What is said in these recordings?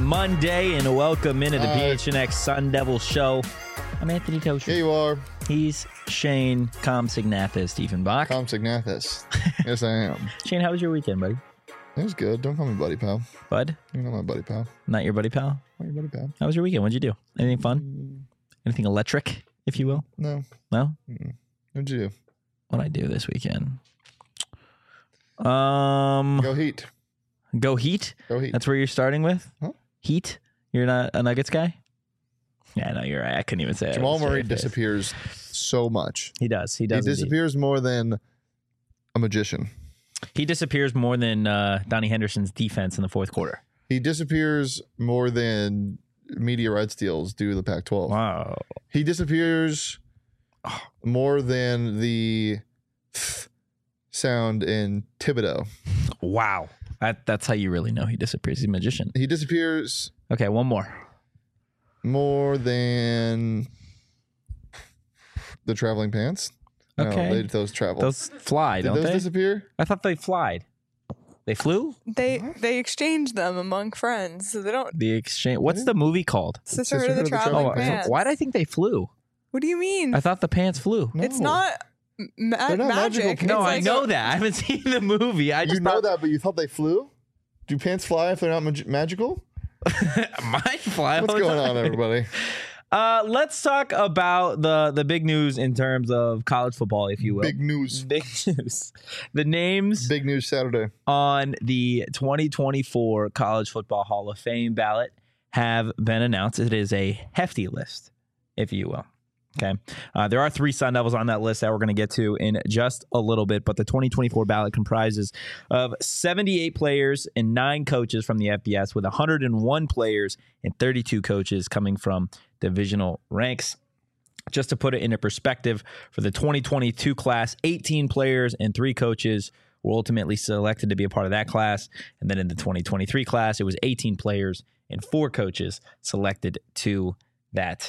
Monday, and welcome into the PHNX Sun Devil Show. I'm Anthony Tosher. Here you are. He's Shane Comsignathis, Stephen Bach. Comsignathis. Yes, I am. Shane, how was your weekend, buddy? It was good. Don't call me buddy pal. Bud? You're not my buddy pal. Not your buddy pal? Not your buddy pal. How was your weekend? What'd you do? Anything fun? Anything electric, if you will? No. No? What'd you do? What'd I do this weekend? Go Heat. Go Heat? Go Heat. That's where you're starting with? Huh? Heat? You're not a Nuggets guy? Yeah, no, you're right. I couldn't even say it. Jamal Murray disappears so much. He does. He disappears more than a magician. He disappears more than Donnie Henderson's defense in the fourth quarter. He disappears more than meteorite steals do the Pac-12. Wow. He disappears more than the sound in Thibodeau. Wow. That's how you really know he disappears. He's a magician. He disappears Okay, one more. more than the traveling pants. Okay. No, those travel. Those fly, Did don't those they? disappear? I thought they flied. They flew? They exchange them among friends, so they don't. The exchange. What's the movie called? Sisterhood of the Traveling Pants. Why did I think they flew? What do you mean? I thought the pants flew. No. It's not They're not magical magic. pants. No, It's I like know that. I haven't seen the movie. I just You know thought that, but you thought they flew? Do pants fly if they're not magical? might fly. What's going on, everybody? Let's talk about the big news in terms of college football, if you will. Big news. Big news. The names Big news Saturday. on the 2024 College Football Hall of Fame ballot have been announced. It is a hefty list, if you will. Okay. There are 3 Sun Devils on that list that we're going to get to in just a little bit, but the 2024 ballot comprises of 78 players and 9 coaches from the FBS, with 101 players and 32 coaches coming from divisional ranks. Just to put it into perspective, for the 2022 class, 18 players and 3 coaches were ultimately selected to be a part of that class. And then in the 2023 class, it was 18 players and 4 coaches selected to that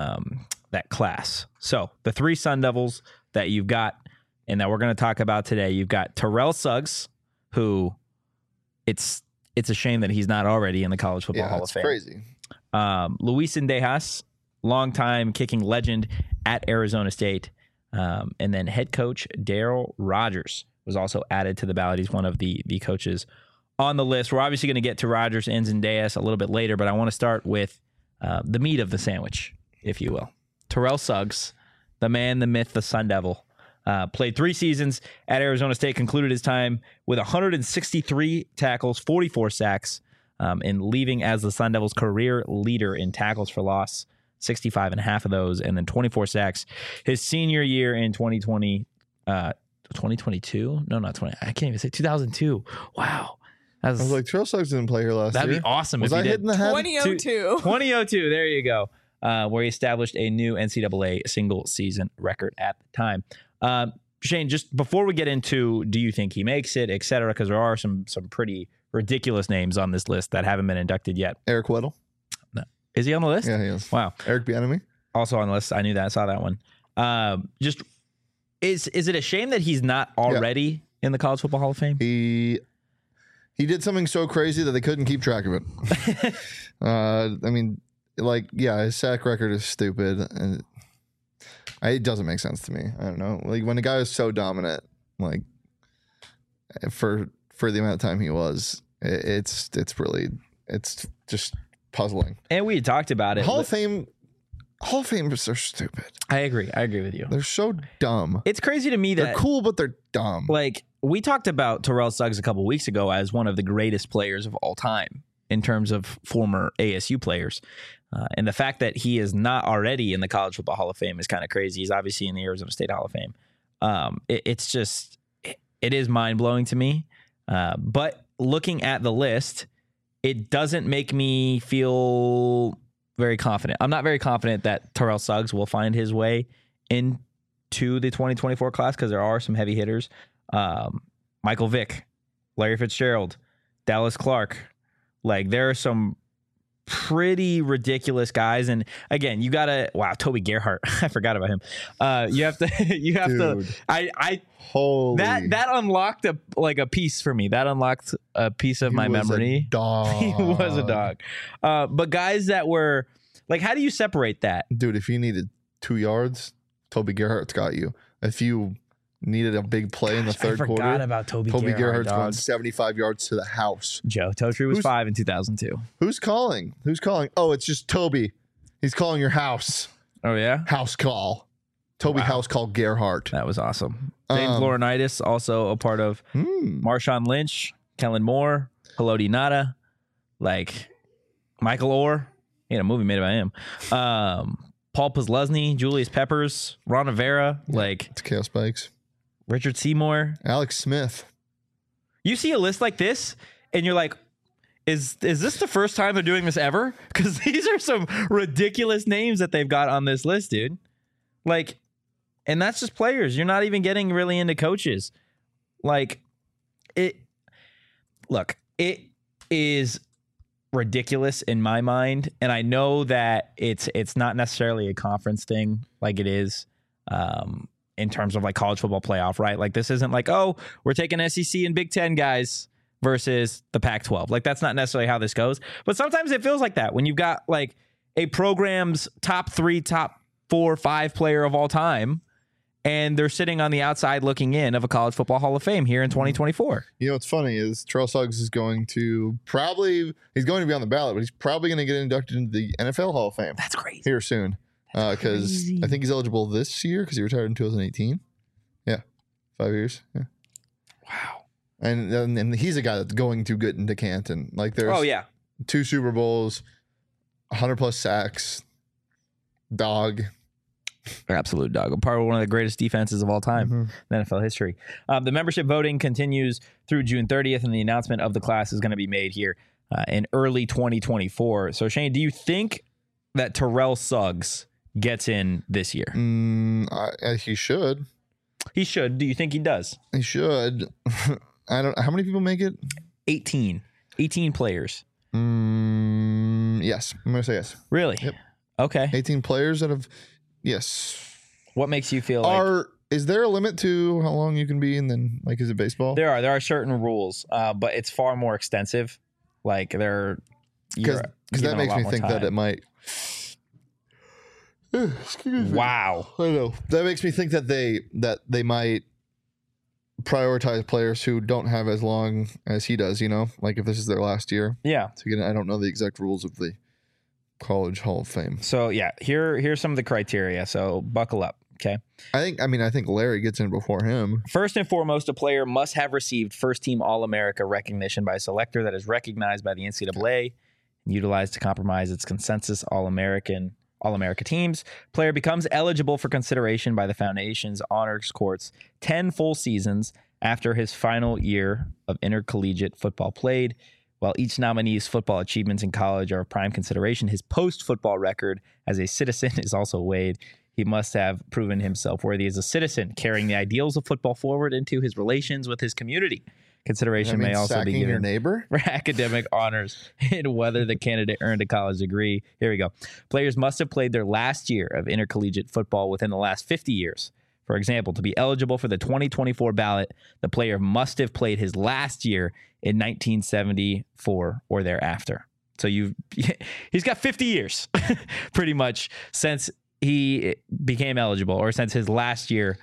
class. So the 3 Sun Devils that you've got and that we're going to talk about today, you've got Terrell Suggs, who it's a shame that he's not already in the College Football Hall of Fame. Crazy. Luis Indejas, longtime kicking legend at Arizona State. And then head coach Daryl Rogers was also added to the ballot. He's one of the coaches on the list. We're obviously going to get to Rogers and Zendejas a little bit later, but I want to start with the meat of the sandwich, if you will. Terrell Suggs, the man, the myth, the Sun Devil, played 3 seasons at Arizona State, concluded his time with 163 tackles, 44 sacks, and leaving as the Sun Devils' career leader in tackles for loss, 65 and a half of those, and then 24 sacks. His senior year in 2022? No, not 20. I can't even say 2002. Wow. I was like, Terrell Suggs didn't play here last year. That'd be awesome Was if I he did. hitting the head? 2002. 2002, there you go, where he established a new NCAA single-season record at the time. Shane, just before we get into do you think he makes it, et cetera, because there are some pretty ridiculous names on this list that haven't been inducted yet. Eric Weddle. No. Is he on the list? Yeah, he is. Wow. Eric Bieniemy. Also on the list. I knew that. I saw that one. Just is it a shame that he's not already in the College Football Hall of Fame? He did something so crazy that they couldn't keep track of it. I mean, his sack record is stupid, and it doesn't make sense to me. I don't know. Like, when a guy is so dominant, like for the amount of time he was, it's just puzzling. And we had talked about it. Hall of Famers are stupid. I agree with you. They're so dumb. It's crazy to me that They're cool, but they're dumb. Like, we talked about Terrell Suggs a couple weeks ago as one of the greatest players of all time in terms of former ASU players. And the fact that he is not already in the College Football Hall of Fame is kind of crazy. He's obviously in the Arizona State Hall of Fame. It is mind-blowing to me. But looking at the list, it doesn't make me feel very confident. I'm not very confident that Terrell Suggs will find his way into the 2024 class because there are some heavy hitters. Michael Vick, Larry Fitzgerald, Dallas Clark. Like, there are some pretty ridiculous guys. And again, you gotta Toby Gerhart. I forgot about him. You have to Dude. I Holy. that unlocked a piece for me. That unlocked a piece of my was a memory. dog. He was a dog. But guys that were like, how do you separate that? Dude, if you needed 2 yards, Toby Gerhart's got you. If you needed a big play in the third I forgot quarter, about Toby Gerhart's Gerhart. going 75 yards to the house. Joe Totri was Who's- 5 in 2002. Who's calling? Oh, it's just Toby. He's calling your house. Oh yeah, House call. Toby Wow. house call Gerhart. that was awesome. James Um, Laurinaitis, also a part of Marshawn Lynch, Kellen Moore, Haloti Nada, like Michael Orr. He had a movie made about him. Paul Posluszny, Julius Peppers, Ron Rivera, like It's Chaos Spikes. Richard Seymour. Alex Smith. You see a list like this, and you're like, is this the first time they're doing this ever? Because these are some ridiculous names that they've got on this list, dude. Like, and that's just players. You're not even getting really into coaches. Like, it is ridiculous in my mind, and I know that it's not necessarily a conference thing like it is in terms of like college football playoff, right? Like, this isn't like, oh, we're taking SEC and Big Ten guys versus the Pac-12. Like, that's not necessarily how this goes. But sometimes it feels like that when you've got like a program's top 3, top 4, 5 player of all time, and they're sitting on the outside looking in of a college football Hall of Fame here in 2024. You know what's funny is Terrell Suggs is going to he's going to be on the ballot, but he's probably going to get inducted into the NFL Hall of Fame That's crazy. here soon. Because crazy. I think he's eligible this year because he retired in 2018. Yeah, 5 years. Yeah, Wow. and he's a guy that's going to get into Canton. Like there's Oh yeah. 2 Super Bowls, 100+ sacks, dog. Absolute dog. A part of one of the greatest defenses of all time in NFL history. The membership voting continues through June 30th, and the announcement of the class is going to be made here in early 2024. So, Shane, do you think that Terrell Suggs gets in this year? He should. He should. Do you think he does? He should. I don't. How many people make it? 18 players. Yes, I'm gonna say yes. Really? Yep. Okay. 18 players out of yes. What makes you feel like Is there a limit to how long you can be, and then like is it baseball? there are certain rules, but it's far more extensive. Like Because that makes me think that it might. Excuse me. Wow. I know that makes me think that they might prioritize players who don't have as long as he does. You know, like if this is their last year. Yeah. So again, I don't know the exact rules of the College Hall of Fame. So yeah, here's some of the criteria. So buckle up. Okay. I think Larry gets in before him. First and foremost, a player must have received first-team All-America recognition by a selector that is recognized by the NCAA and utilized to compromise its consensus All-America teams. Player becomes eligible for consideration by the Foundation's Honors Courts 10 full seasons after his final year of intercollegiate football played. While each nominee's football achievements in college are of prime consideration, his post-football record as a citizen is also weighed. He must have proven himself worthy as a citizen, carrying the ideals of football forward into his relations with his community. Consideration may also be sacking your given neighbor. for academic honors and whether the candidate earned a college degree. Here we go. Players must have played their last year of intercollegiate football within the last 50 years. For example, to be eligible for the 2024 ballot, the player must have played his last year in 1974 or thereafter. So he's got 50 years pretty much since he became eligible or since his last year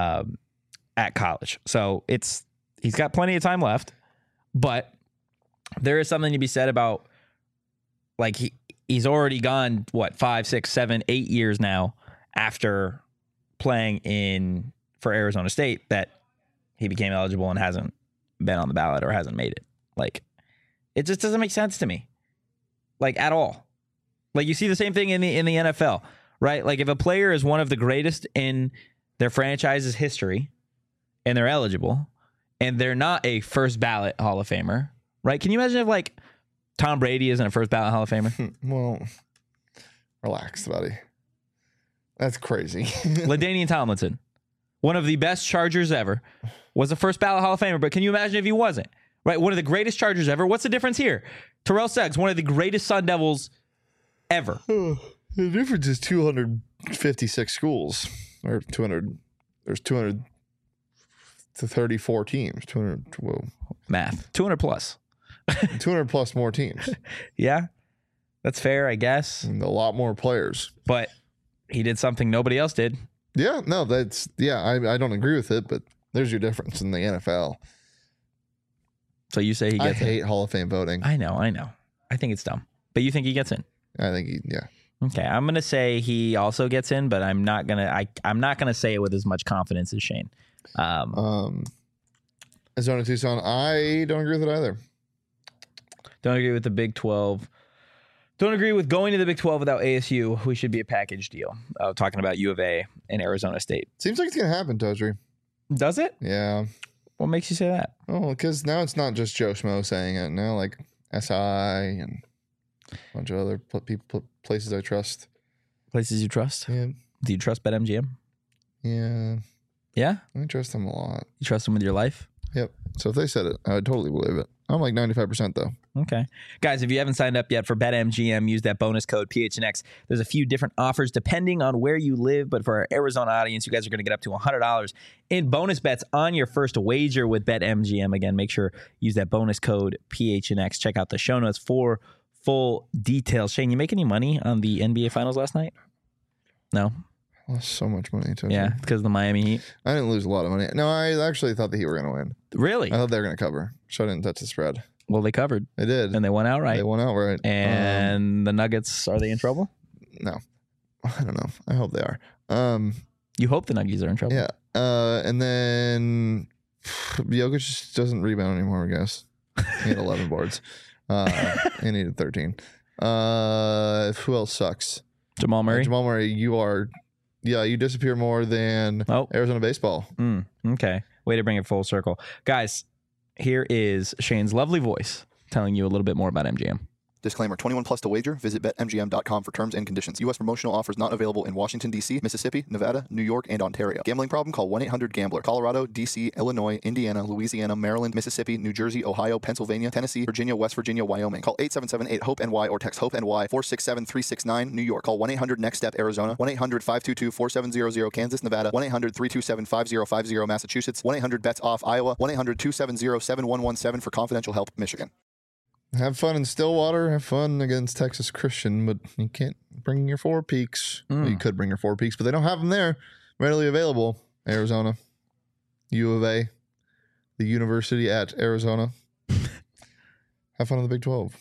at college. So he's got plenty of time left, but there is something to be said about like he's already gone 5, 6, 7, 8 years now after playing for Arizona State that he became eligible and hasn't been on the ballot or hasn't made it. Like, it just doesn't make sense to me, like at all. Like you see the same thing in the NFL, right? Like if a player is one of the greatest in their franchise's history and they're eligible and they're not a first ballot Hall of Famer, right? Can you imagine if like Tom Brady isn't a first ballot Hall of Famer? Well, relax, buddy. That's crazy. LaDainian Tomlinson, one of the best Chargers ever, was a first ballot Hall of Famer. But can you imagine if he wasn't? right? One of the greatest Chargers ever. What's the difference here? Terrell Suggs, one of the greatest Sun Devils ever. The difference is 256 schools, or 200. There's 200 to 34 teams. 200. Whoa, Math. 200 plus. 200 plus more teams. Yeah, that's fair, I guess. And a lot more players. But he did something nobody else did. Yeah, no, that's I don't agree with it, but there's your difference in the NFL. So you say he I gets in? hate Hall of Fame voting. I know. I think it's dumb. But you think he gets in? I think Okay, I'm gonna say he also gets in, but I'm not gonna say it with as much confidence as Shane. Arizona Tucson, I don't agree with it either. Don't agree with the Big 12. Don't agree with going to the Big 12 without ASU. We should be a package deal. Talking about U of A and Arizona State. Seems like it's gonna happen, Todri. Does it? Yeah. What makes you say that? Oh, because now it's not just Joe Schmo saying it. Now, like SI and a bunch of other places I trust. Places you trust? Yeah. Do you trust BetMGM? Yeah. Yeah? I trust them a lot. You trust them with your life? Yep. So if they said it, I would totally believe it. I'm like 95% though. Okay. Guys, if you haven't signed up yet for BetMGM, use that bonus code PHNX. There's a few different offers depending on where you live, but for our Arizona audience, you guys are going to get up to $100 in bonus bets on your first wager with BetMGM. Again, make sure you use that bonus code PHNX. Check out the show notes for full details. Shane, you make any money on the NBA Finals last night? No? I lost so much money. Totri. Yeah, because of the Miami Heat. I didn't lose a lot of money. No, I actually thought the Heat were going to win. Really? I thought they were going to cover. So I didn't touch the spread. Well, they covered. They did. And they won outright. They won outright. And the Nuggets, are they in trouble? No. I don't know. I hope they are. You hope the Nuggets are in trouble. Yeah. And then Jokic just doesn't rebound anymore, I guess. He had 11 boards. He needed 13. Who else sucks? Jamal Murray? Jamal Murray, you disappear more than Arizona baseball. Okay. Way to bring it full circle. Guys, here is Shane's lovely voice telling you a little bit more about MGM. Disclaimer, 21 plus to wager. Visit BetMGM.com for terms and conditions. U.S. promotional offers not available in Washington, D.C., Mississippi, Nevada, New York, and Ontario. Gambling problem? Call 1-800-GAMBLER. Colorado, D.C., Illinois, Indiana, Louisiana, Maryland, Mississippi, New Jersey, Ohio, Pennsylvania, Tennessee, Virginia, West Virginia, Wyoming. Call 877-8-HOPE-NY or text HOPE-NY 467-369, New York. Call 1-800-NEXT-STEP, Arizona. 1-800-522-4700, Kansas, Nevada. 1-800-327-5050, Massachusetts. 1-800-BETS-OFF, Iowa. 1-800-270-7117 for confidential help, Michigan. Have fun in Stillwater. Have fun against Texas Christian, but you can't bring your Four Peaks. Well, you could bring your Four Peaks, but they don't have them there readily available. Arizona, U of A, the University at Arizona. Have fun in the Big 12.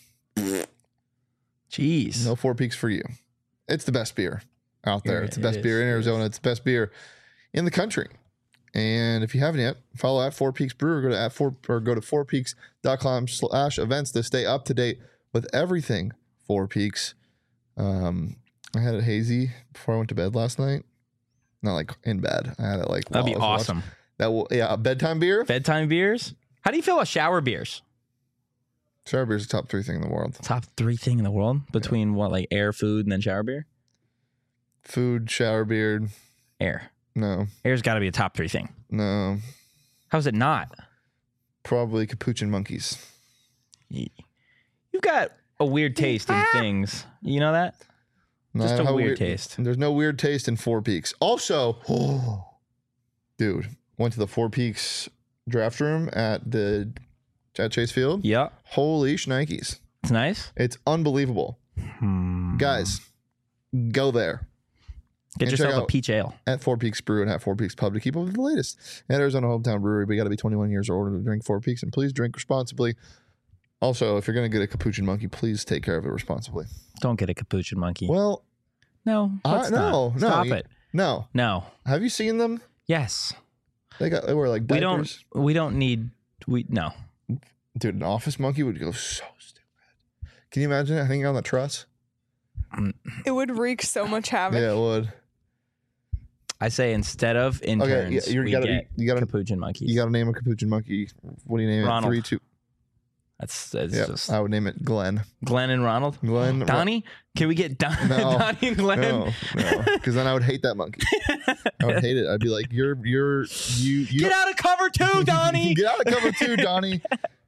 Jeez. No Four Peaks for you. It's the best beer out there. It's the best beer in Arizona. It's the best beer in the country. And if you haven't yet, follow at Four Peaks Brewer. Go to fourpeaks.com/events to stay up to date with everything Four Peaks. I had it hazy before I went to bed last night. Not like in bed. I had it like that'd be awesome. A bedtime beer. Bedtime beers. How do you feel about shower beers? Shower beer is the top 3 thing in the world. Top 3 thing in the world between what, like air, food, and then shower beer? Food, shower beer. Air. No. Air's got to be a top 3 thing. No. How's it not? Probably Capuchin Monkeys. You've got a weird taste in things. You know that? Just a weird taste. There's no weird taste in Four Peaks. Also, dude, went to the Four Peaks draft room at Chase Field. Yeah. Holy shnikes. It's nice. It's unbelievable. Guys, go there. Get yourself a peach ale. At Four Peaks Brew and at Four Peaks Pub to keep up with the latest. At Arizona Hometown Brewery, we got to be 21 years or older to drink Four Peaks, and please drink responsibly. Also, if you're going to get a Capuchin Monkey, please take care of it responsibly. Don't get a Capuchin Monkey. Well, no. Stop it. No. Have you seen them? Yes. They wear like diapers. We don't need. No. Dude, an office monkey would go so stupid. Can you imagine it hanging on the truss? It would wreak so much havoc. Yeah, it would. I say instead of interns, we get Capuchin monkeys. You got to name a Capuchin monkey. What do you name Ronald. it? 3, 2. That's just. I would name it Glenn. Glenn and Ronald. Donnie? Can we get Donnie and Glenn? No, because then I would hate that monkey. I would hate it. I'd be like, you get out of cover 2, Donnie. Get out of cover 2, Donnie.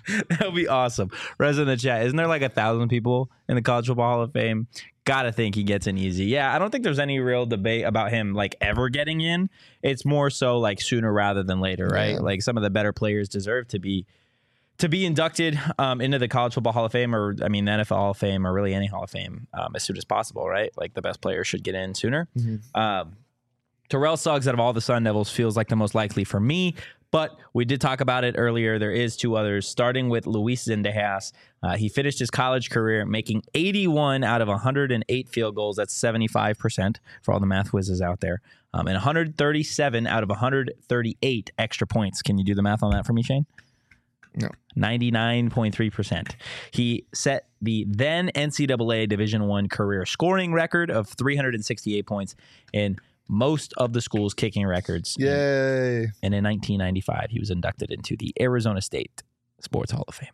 That would be awesome. Rez in the chat. Isn't there like 1,000 people in the College Football Hall of Fame? Gotta think he gets in easy. Yeah, I don't think there's any real debate about him like ever getting in. It's more so like sooner rather than later, right? Yeah. Like some of the better players deserve to be inducted into the College Football Hall of Fame, or I mean the NFL Hall of Fame, or really any Hall of Fame as soon as possible, right? Like the best players should get in sooner. Terrell Suggs out of all the Sun Devils feels like the most likely for me, but we did talk about it earlier. There is two others, starting with Luis Zendejas. He finished his college career making 81 out of 108 field goals. That's 75% for all the math whizzes out there. And 137 out of 138 extra points. Can you do the math on that for me, Shane? No. 99.3%. He set the then NCAA Division I career scoring record of 368 points in most of the school's kicking records. Yay. And in 1995, he was inducted into the Arizona State Sports Hall of Fame.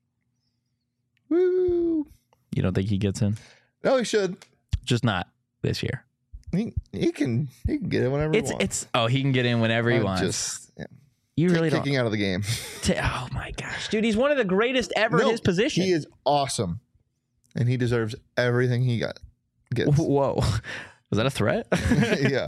Woo. You don't think he gets in? No, he should. Just not this year. He can get it whenever he wants. He can get in whenever he I'm wants. Just You really don't. kicking out of the game. Oh my gosh, dude, he's one of the greatest ever in his position. He is awesome, and he deserves everything he gets. Whoa, was that a threat? Yeah.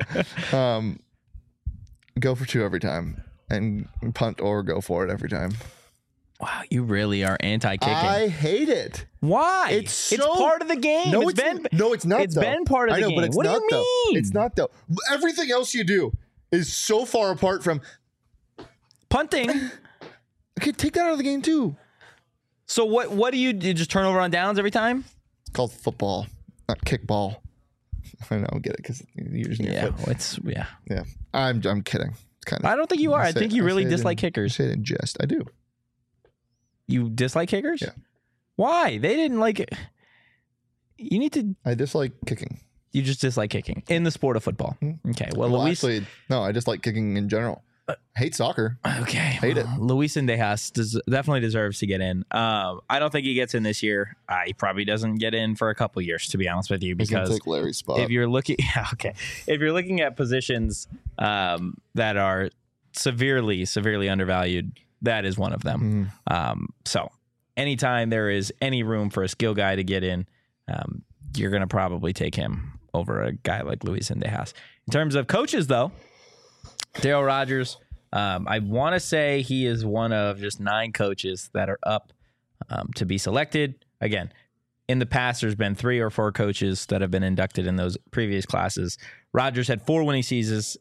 Go for two every time, and punt or go for it every time. Wow, you really are anti-kicking. I hate it. Why? It's part of the game. No, it's been not. It's though. been part of the I know, game. but it's What not do you though. mean? It's not though. Everything else you do is so far apart from Punting. Okay, take that out of the game too. So what do you just turn over on downs every time? It's called football, not kickball. I know, get it because you're using your foot. Yeah. I'm kidding. It's kind of. I don't think you are. I think you really dislike I kickers. say it in jest. I do. You dislike kickers? Yeah. Why? They didn't like it. You need to. I dislike kicking. You just dislike kicking in the sport of football. Okay. Well, Luis. Actually, no. I dislike kicking in general. Hate soccer. Okay. Hate it. Luis Zendejas definitely deserves to get in. I don't think he gets in this year. He probably doesn't get in for a couple years, to be honest with you, He's gonna because take Larry's spot. if you're looking, if you're looking at positions that are severely undervalued, that is one of them. So anytime there is any room for a skill guy to get in, you're going to probably take him over a guy like Luis Zendejas. In terms of coaches, though, Darryl Rogers, I want to say he is one of just 9 coaches that are up to be selected. Again, in the past, there's been 3 or 4 coaches that have been inducted in those previous classes. Rogers had 4 winning seasons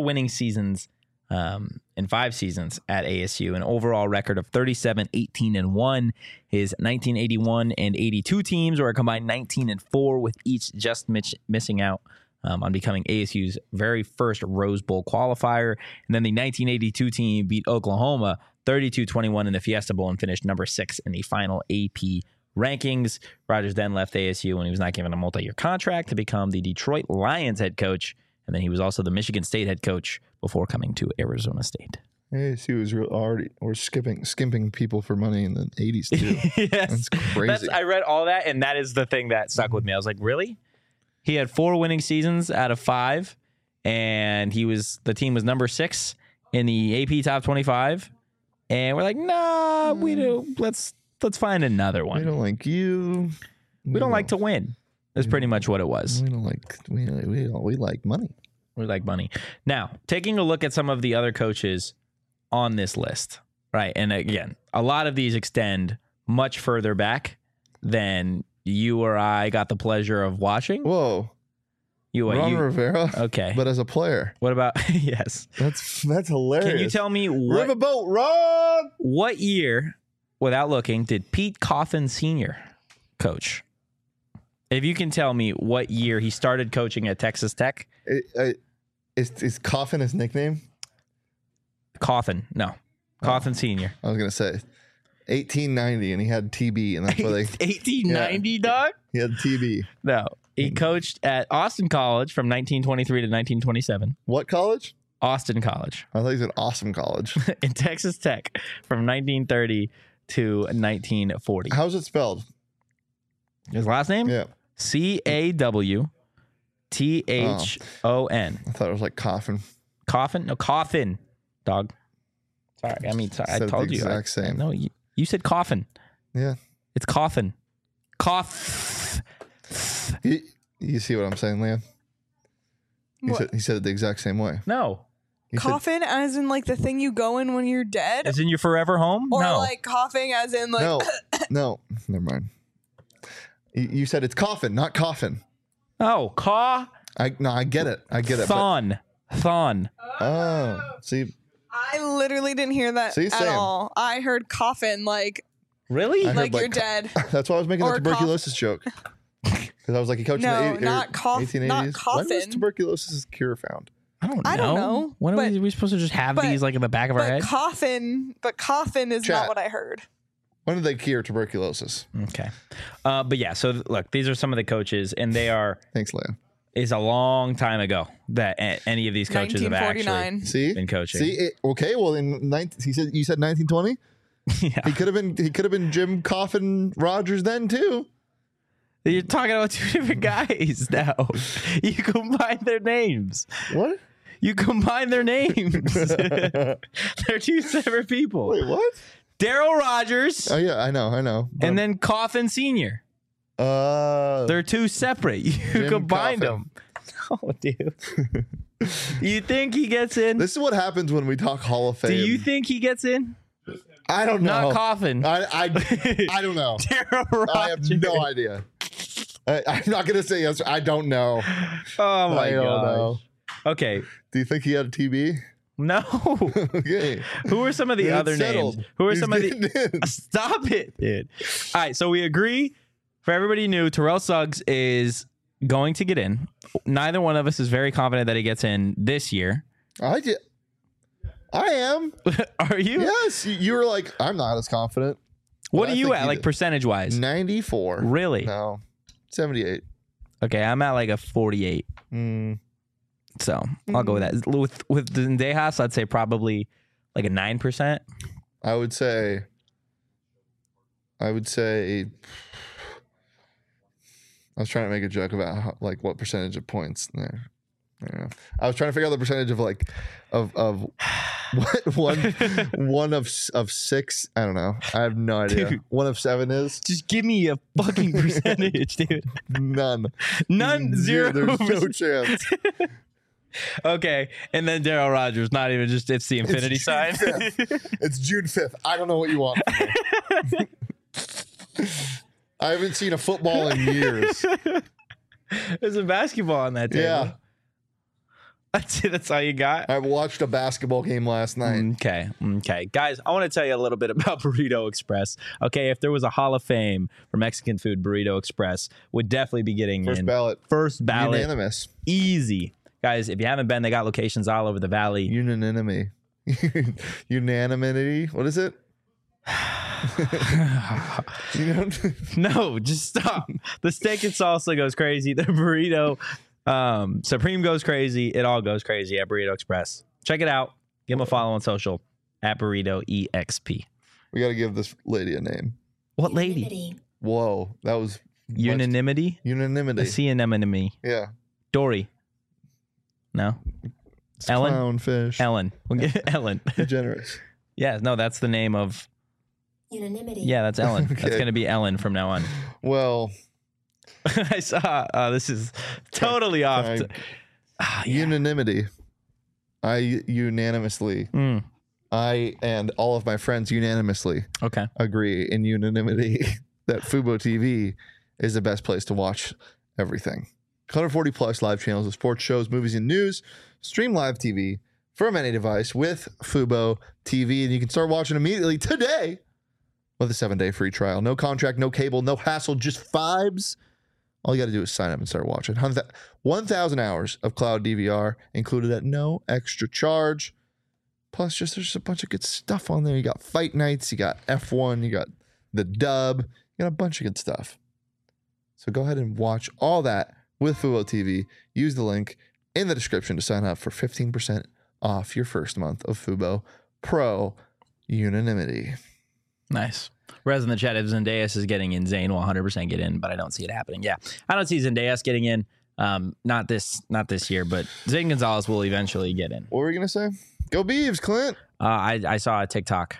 in 5 seasons at ASU, an overall record of 37-18-1. His 1981 and 82 teams were a combined 19-4, with each just missing out on becoming ASU's very first Rose Bowl qualifier. And then the 1982 team beat Oklahoma 32-21 in the Fiesta Bowl and finished number 6 in the final AP rankings. Rogers then left ASU when he was not given a multi-year contract to become the Detroit Lions head coach. And then he was also the Michigan State head coach before coming to Arizona State. ASU was we're skimping people for money in the 80s too. Yes. That's crazy. I read all that, and that is the thing that stuck with me. I was like, really? He had 4 winning seasons out of 5, and the team was number 6 in the AP Top 25. And we're like, nah, we do. Let's find another one. We don't like you. We don't like to win. That's pretty much what it was. We don't like. We like money. We like money. Now, taking a look at some of the other coaches on this list, right? And again, a lot of these extend much further back than you or I got the pleasure of watching. Whoa. Ron Rivera. Okay. But as a player. What about, yes. That's hilarious. Can you tell me Riverboat Ron? What year, without looking, did Pete Coffin Sr. coach? If you can tell me what year he started coaching at Texas Tech. Is Coffin his nickname? Coffin. No. Coffin Sr. I was going to say 1890, and he had TB, and that's why they 1890, dog? He had TB. No. He coached at Austin College from 1923 to 1927. What college? Austin College. I thought he said Awesome College. In Texas Tech from 1930 to 1940. How's it spelled? His last name? Yeah. Cawthon. I thought it was like Coffin. Coffin? No, Coffin, dog. Sorry. I mean, sorry. I Said told the you. exact same. No, You said coffin. Yeah. It's coffin. Cough. You see what I'm saying, Liam? He said it the exact same way. No. He said, Coffin as in like the thing you go in when you're dead? As in your forever home? Or no. like coughing as in like no, never mind. You said it's coffin, not coffin. Oh, I get it. I get it. Thon. Oh, see. I literally didn't hear that See, at same. all. I heard coffin like Really? I heard, like you're like, dead. That's why I was making the Or tuberculosis joke. Because I was like, he coached No, in the not 1880s. not When was coffin. tuberculosis cure found? I don't know. I don't know, When are but- we supposed to just have but- these like in the back of our head? Coffin is Chat. not what I heard. When did they cure tuberculosis? Okay. But yeah, so look, these are some of the coaches, and they are, Thanks, Liam. is a long time ago that any of these coaches have actually 1949. See, been coaching. See, okay. Well, you said 1920. Yeah. He could have been Jim Coffin Rogers then too. You're talking about two different guys now. You combine their names. What? You combine their names. They're two separate people. Wait, what? Daryl Rogers Oh yeah, I know. and then Coffin Sr. They're two separate. You Jim combined Coffin. them. Oh, dude. You think he gets in? This is what happens when we talk Hall of Fame. Do you think he gets in? I don't know. Not Coffin. I don't know. Daryl Rogers. I have no idea. I'm not gonna say yes. I don't know. Oh my I don't know. gosh. Okay. Do you think he had a TB? No. Okay. Who are some of the Then other it's settled. names? Who are He's some of the? getting in. Stop it, dude. All right, so we agree. For everybody new, Terrell Suggs is going to get in. Neither one of us is very confident that he gets in this year. I am. Are you? Yes. You were like, I'm not as confident. What I are you think at, he like did. percentage wise? 94. Really? No. 78. Okay, I'm at like a 48. So I'll go with that. With Zendejas, I'd say probably like a 9%. I would say. I was trying to make a joke about how, like what percentage of points there. I don't know. I was trying to figure out the percentage of like of what one of 6. I don't know. I have no idea. Dude. 1 of 7 is Just give me a fucking percentage, dude. none. None, zero. There's no chance. Okay, and then Daryl Rogers, not even just it's the infinity It's sign. June 5th. It's June 5th. I don't know what you want from me. I haven't seen a football in years. There's a basketball on that table. Yeah. That's it. That's all you got. I watched a basketball game last night. Okay. Guys, I want to tell you a little bit about Burrito Express. Okay, if there was a Hall of Fame for Mexican food, Burrito Express would definitely be getting First in. ballot. First ballot. Unanimous. Easy. Guys, if you haven't been, they got locations all over the valley. Unanimity. Unanimity. What is it? You know? No, just stop. The steak and salsa goes crazy. The burrito Supreme goes crazy. It all goes crazy at Burrito Express. Check it out. Give them a follow on social at Burrito EXP. We got to give this lady a name. What lady? Whoa, that was Unanimity? unanimity. The sea anemone. Yeah. Dory. No. It's Ellen? Clownfish. Ellen. We'll get Ellen. Degenerates. Yeah, no, that's the name of. Unanimity. Yeah, that's Ellen. That's Okay. going to be Ellen from now on. Well, I saw. This is totally off. I- Yeah. unanimity. I unanimously, Mm, I and all of my friends unanimously okay. agree in unanimity that Fubo TV is the best place to watch everything. 140 plus live channels of sports shows, movies, and news. Stream live TV from any device with Fubo TV, and you can start watching immediately today with a 7-day free trial. No contract, no cable, no hassle, just vibes. All you got to do is sign up and start watching. 1,000 hours of cloud DVR included at no extra charge. Plus, there's just a bunch of good stuff on there. You got fight nights, you got F1, you got the dub, you got a bunch of good stuff. So go ahead and watch all that with Fubo TV. Use the link in the description to sign up for 15% off your first month of Fubo Pro Unanimity. Nice. Res in the chat, if Zendejas is getting in, Zane will 100% get in, but I don't see it happening. Yeah, I don't see Zendejas getting in. Not this year, but Zane Gonzalez will eventually get in. What were we going to say? Go Beavs, Clint. I saw a TikTok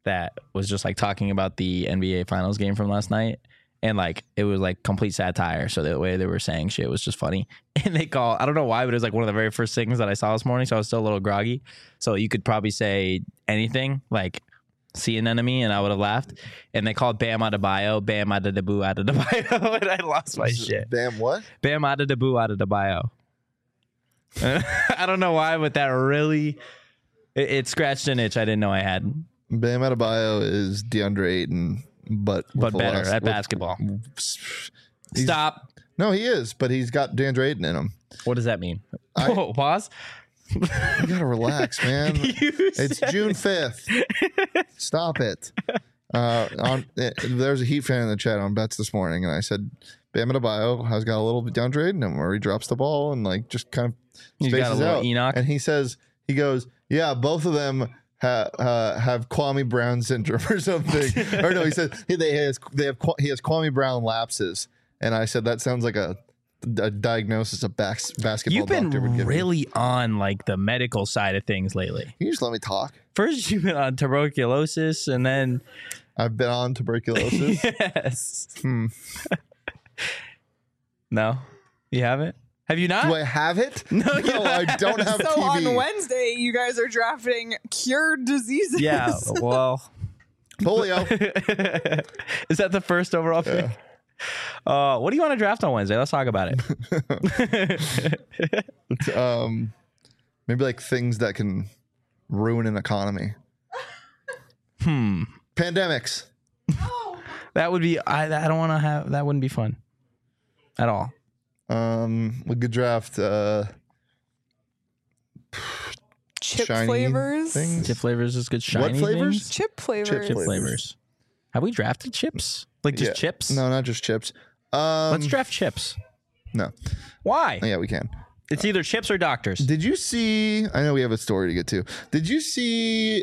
that was just like talking about the NBA Finals game from last night. And like it was like complete satire. So the way they were saying shit was just funny. And they call, I don't know why, but it was like one of the very first things that I saw this morning. So I was still a little groggy. So you could probably say anything like see an enemy and I would have laughed. And they called Bam Adebayo, Bam Adebayo Adebayo. And I lost my shit. Bam, what? Bam Adebayo Adebayo. I don't know why, but that really, it scratched an itch I didn't know I had. Bam Adebayo is DeAndre Ayton, but better at basketball. Stop. No, he is, but he's got DeAndre Ayton in him. What does that mean? Oh, pause. You gotta relax, man. It's June 5th. Stop it. There's a Heat fan in the chat on bets this morning, and I said Bam Adebayo has got a little DeAndre Ayton in him where he drops the ball and like just kind of He's got a spaces little out. Enoch. And he goes, yeah, both of them have Kwame Brown syndrome or something. Or no, he said he has Kwame Brown lapses. And I said that sounds like a diagnosis a basketball You've been doctor would give really me. on like the medical side of things lately. Can you just let me talk? First you've been on tuberculosis and then I've been on tuberculosis. yes. No, you haven't? Have you not? Do I have it? No, I don't have So TB. on Wednesday, you guys are drafting cured diseases. Yeah, well. Polio. Is that the first overall pick? What do you want to draft on Wednesday? Let's talk about it. Maybe like things that can ruin an economy. Pandemics. That would be, I don't want to have, that wouldn't be fun at all. We could draft Chip shiny flavors. things. Chip flavors is good. Shiny What flavors? things? Chip flavors. Chip flavors. Have we drafted chips? Like just Yeah. chips? No, not just chips. Let's draft chips. No. Why? Yeah, we can. It's either chips or doctors. Did you see? I know we have a story to get to. Did you see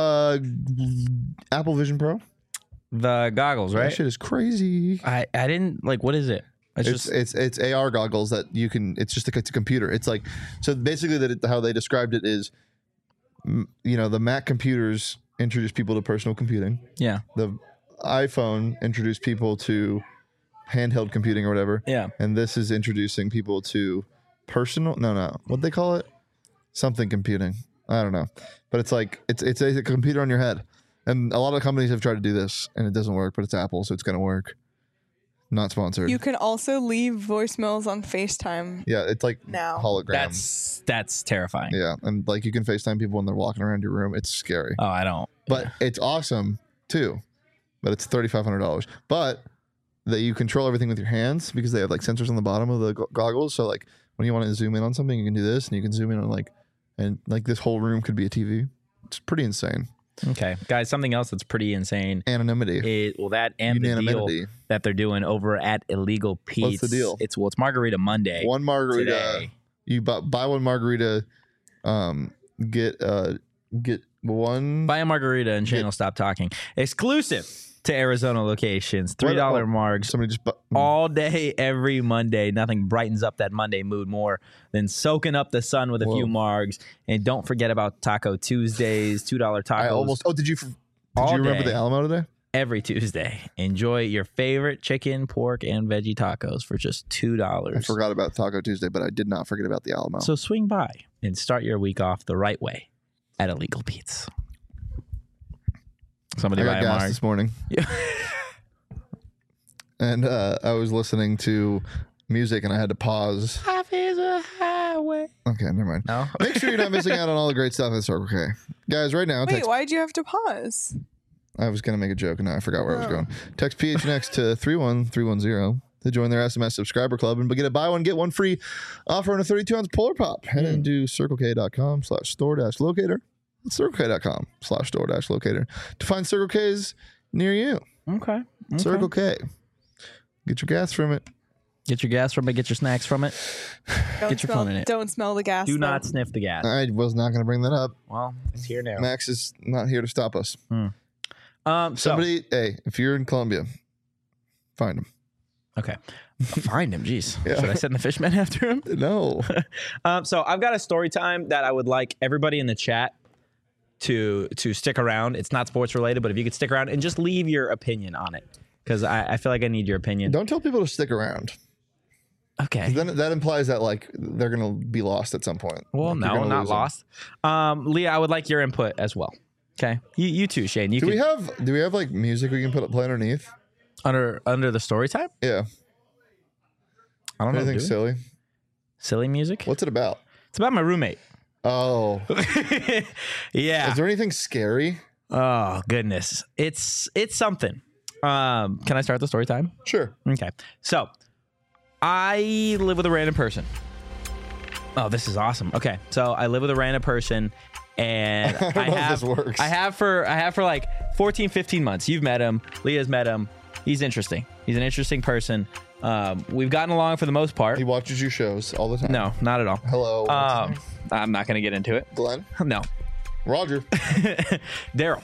Apple Vision Pro? The goggles, That right? shit is crazy. I didn't, like, what is it? It's AR goggles that you can. It's just it's a computer. It's like so basically how they described it is, the Mac computers introduced people to personal computing. Yeah. The iPhone introduced people to handheld computing or whatever. Yeah. And this is introducing people to personal. No. What they call it? Something computing. I don't know. But it's like it's a computer on your head. And a lot of companies have tried to do this and it doesn't work. But it's Apple, so it's gonna work. Not sponsored. You can also leave voicemails on FaceTime. Yeah, it's like Now. hologram. That's terrifying. Yeah, and like you can FaceTime people when they're walking around your room. It's scary, Oh, I don't. but it's awesome too. But it's $3,500. But that you control everything with your hands because they have like sensors on the bottom of the goggles. So like when you want to zoom in on something, you can do this, and you can zoom in on and this whole room could be a TV. It's pretty insane. Okay, guys, something else that's pretty insane. Anonymity. That and the deal Unanimity. that they're doing over at Illegal Pete's. What's the deal? It's Margarita Monday. One margarita. Today. You buy one margarita. Get one. Buy a margarita and channel Stop Talking. Exclusive to Arizona locations. $3 margs. Somebody just All day, every Monday. Nothing brightens up that Monday mood more than soaking up the sun with a few margs. And don't forget about Taco Tuesdays, $2 tacos. I almost. Oh, did you remember the Alamo today? Every Tuesday. Enjoy your favorite chicken, pork, and veggie tacos for just $2. I forgot about Taco Tuesday, but I did not forget about the Alamo. So swing by and start your week off the right way at Illegal Pete's. Somebody I buy got a gas marg. this morning. Yeah. And I was listening to music and I had to pause. Life is a highway. Okay, never mind. No? Make sure you're not missing out on all the great stuff at Circle K. Guys, right now, Wait, why'd you have to pause? I was going to make a joke and now I forgot where I was going. Text PHNX to 31310 to join their SMS subscriber club and get a buy one, get one free offer on a 32-ounce Polar Pop. Head into circlek.com/store-locator. That's circlek.com/store-locator to find Circle K's near you. Okay. Circle K. Get your gas from it. Get your gas from it. Get your snacks from it. Get your fun in it. Don't smell the gas. Do though. not sniff the gas. I was not going to bring that up. Well, it's here now. Max is not here to stop us. So, Somebody, hey, if you're in Columbia, find him. okay. Find him. Jeez. Yeah. Should I send the fishman after him? No. So I've got a story time that I would like everybody in the chat to stick around. It's not sports related, but if you could stick around and just leave your opinion on it, because I feel like I need your opinion. Don't tell people to stick around. Okay. Then that implies that like they're gonna be lost at some point. Well, Like, you're no, gonna not lose them. lost. Leah, I would like your input as well. Okay. You too, Shane. Do we have like music we can play underneath? under the story time? Yeah. I don't know. Anything do we? silly? Silly music? What's it about? It's about my roommate. Oh, Yeah. is there anything scary? Oh goodness, it's something. Can I start the story time? Sure. Okay, so I live with a random person. Oh, this is awesome. Okay, so I live with a random person, and I don't know if this works. I have for like 14, 15 months. You've met him. Leah's met him. He's interesting. He's an interesting person. We've gotten along for the most part. He watches your shows all the time. No, not at all. Hello. I'm not going to get into it. Glenn. No, Roger. Daryl.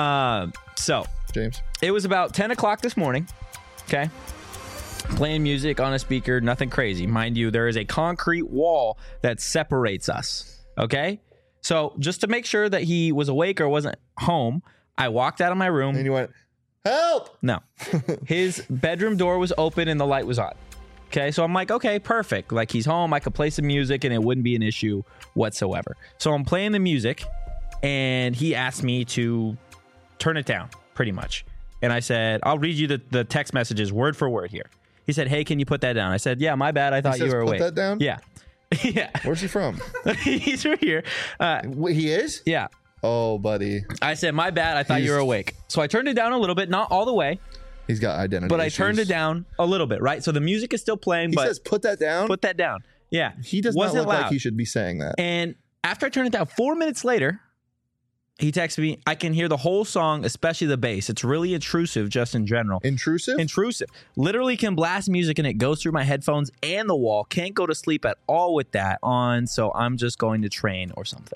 So James. it was about 10 o'clock this morning. Okay. Playing music on a speaker, nothing crazy. Mind you, there is a concrete wall that separates us. Okay. So just to make sure that he was awake or wasn't home, I walked out of my room. And you went, help. No. His bedroom door was open and the light was on. Okay. So I'm like, okay, perfect. Like he's home. I could play some music and it wouldn't be an issue whatsoever. So I'm playing the music and he asked me to turn it down pretty much. And I said, I'll read you the text messages word for word here. He said, hey, can you put that down? I said, yeah, my bad. I thought He says, you were put awake. that down? Yeah. Yeah. Where's he from? He's right here. Wait, he is? Yeah. Oh, buddy. I said, my bad. I thought you were awake. So I turned it down a little bit, not all the way, He's got identity but I issues. turned it down a little bit, right? So the music is still playing, He but says, put that down? put that down. Yeah. He does Wasn't not look loud. like he should be saying that. And after I turned it down, 4 minutes later, he texted me, I can hear the whole song, especially the bass. It's really intrusive just in general. Intrusive? Intrusive. Literally can blast music and it goes through my headphones and the wall. Can't go to sleep at all with that on, so I'm just going to train or something.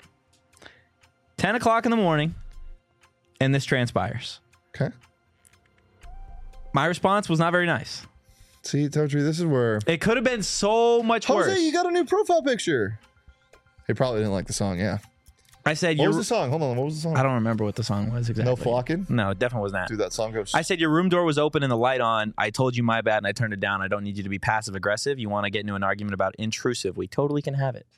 10 o'clock in the morning, and this transpires. Okay. My response was not very nice. See, Totri, this is where... It could have been so much worse. Jose, you got a new profile picture. He probably didn't like the song, yeah. I said, What was the song? Hold on, what was the song? I don't remember what the song was exactly. No Flocking? No, it definitely was not. Dude, that song goes... I said your room door was open and the light on. I told you my bad and I turned it down. I don't need you to be passive aggressive. You want to get into an argument about intrusive. We totally can have it.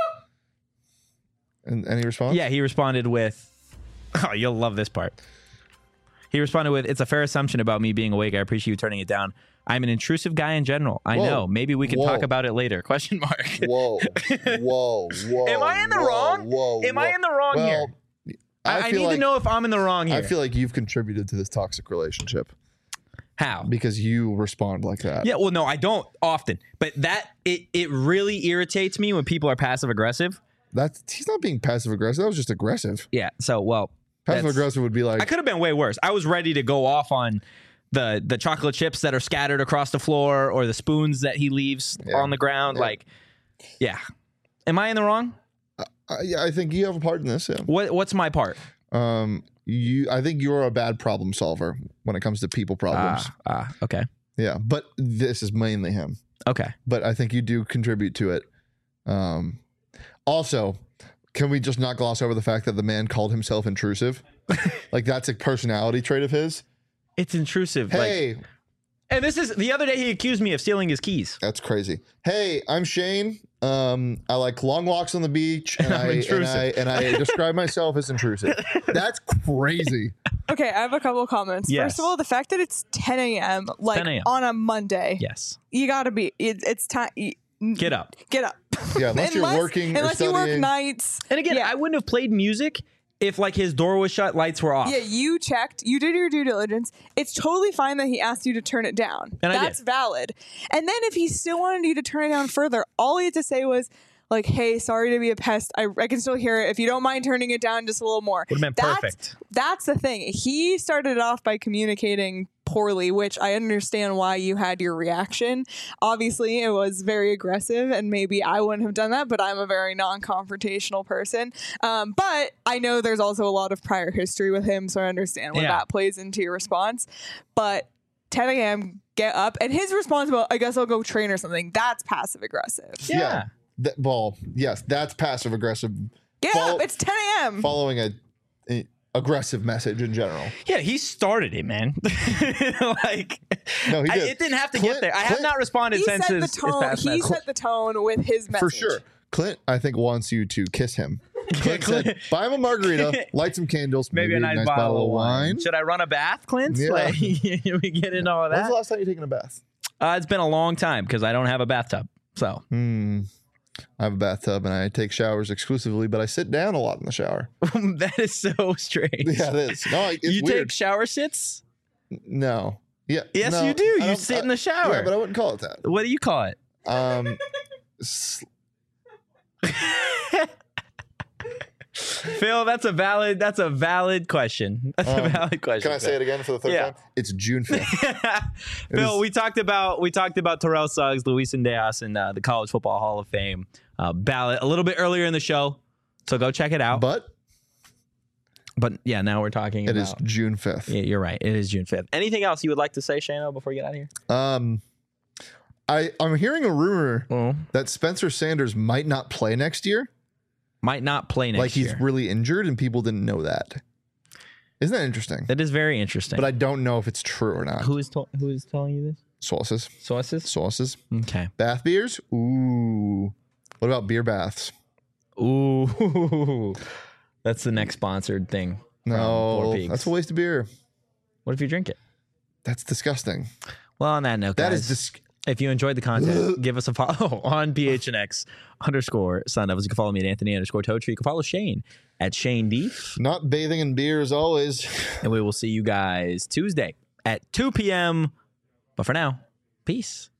And any response? Yeah, he responded with, oh, you'll love this part. He responded with, it's a fair assumption about me being awake. I appreciate you turning it down. I'm an intrusive guy in general. I Whoa. know. Maybe we can Whoa. talk about it later. Question mark. Whoa. Whoa. Whoa. Am I in the whoa, wrong? Whoa. Am I in the wrong here? I feel need like, to know if I'm in the wrong here. I feel like you've contributed to this toxic relationship How? because you respond like that. Yeah, well, no, I don't often. But it really irritates me when people are passive aggressive. He's not being passive aggressive. That was just aggressive. Yeah, so, well. Passive that's- aggressive would be like, I could have been way worse. I was ready to go off on the chocolate chips that are scattered across the floor or the spoons that he leaves on the ground. Yeah. Like, yeah. Am I in the wrong? yeah, I think you have a part in this. Yeah. What's my part? I think you're a bad problem solver when it comes to people problems. Okay. Yeah, but this is mainly him. Okay. But I think you do contribute to it. Also, can we just not gloss over the fact that the man called himself intrusive? Like that's a personality trait of his. It's intrusive. Hey, And this is the other day he accused me of stealing his keys. that's crazy. Hey, I'm Shane. I like long walks on the beach, and I'm intrusive. and I describe myself as intrusive. That's crazy. Okay, I have a couple of comments. Yes. First of all, the fact that it's 10 a.m. like 10 a.m. on a Monday, Yes. you gotta be. It's time. Get up. Get up. Yeah, unless you're working or unless you work studying. nights. And again, Yeah. I wouldn't have played music if like his door was shut, lights were off. Yeah, you checked. You did your due diligence. It's totally fine that he asked you to turn it down. And I did. That's valid. And then if he still wanted you to turn it down further, all he had to say was, like, hey, sorry to be a pest. I can still hear it. If you don't mind turning it down just a little more. Would have been perfect. That's the thing. He started off by communicating poorly, which I understand why you had your reaction. Obviously, it was very aggressive, and maybe I wouldn't have done that, but I'm a very non-confrontational person. But I know there's also a lot of prior history with him, so I understand when that plays into your response. But 10 a.m., get up. And his response about, I guess I'll go train or something, that's passive aggressive. Yeah. Yes, that's passive aggressive. Get up. It's 10 a.m. Following a aggressive message in general. Yeah, he started it, man. Like, No, he did. it didn't have to Clint- get there. I have Clint- not responded He since set the his tone. past He message. set the tone with his message. For sure. Clint, I think, wants you to kiss him. Clint Clint- said, buy him a margarita, light some candles, Maybe a nice bottle of wine. Should I run a bath, Clint? Yeah. Like, we get into all of When's that. the last time you taken a bath? It's been a long time because I don't have a bathtub. So I have a bathtub and I take showers exclusively, but I sit down a lot in the shower. that is so strange. Yeah, it is. No, it's you weird. take shower sits? No. Yeah. Yes, no, you do. I You don't- sit in the shower. Yeah, but I wouldn't call it that. What do you call it? S- Phil, that's a valid question. That's a valid question. Can I say it again for the third Yeah. time? It's June 5th. Phil, is- we talked about Terrell Suggs, Luis Diaz, and the College Football Hall of Fame ballot a little bit earlier in the show. So go check it out. But yeah, now we're talking it about is June 5th. Yeah, you're right. It is June 5th. Anything else you would like to say, Shano, before you get out of here? I'm hearing a rumor Oh. that Spencer Sanders might not play next year. Might not play next Like he's year. really injured and people didn't know that. Isn't that interesting? That is very interesting. But I don't know if it's true or not. who is telling you this? Sauces. Sources? Okay. Bath beers? Ooh. What about beer baths? Ooh. That's the next sponsored thing. from No, Four Peaks. that's a waste of beer. What if you drink it? That's disgusting. Well, on that note, That guys, is if you enjoyed the content, give us a follow on PHNX_Sun Devils. You can follow me at Anthony_Totri. You can follow Shane at Shane Deef. not bathing in beer as always. And we will see you guys Tuesday at 2 p.m. But for now, peace.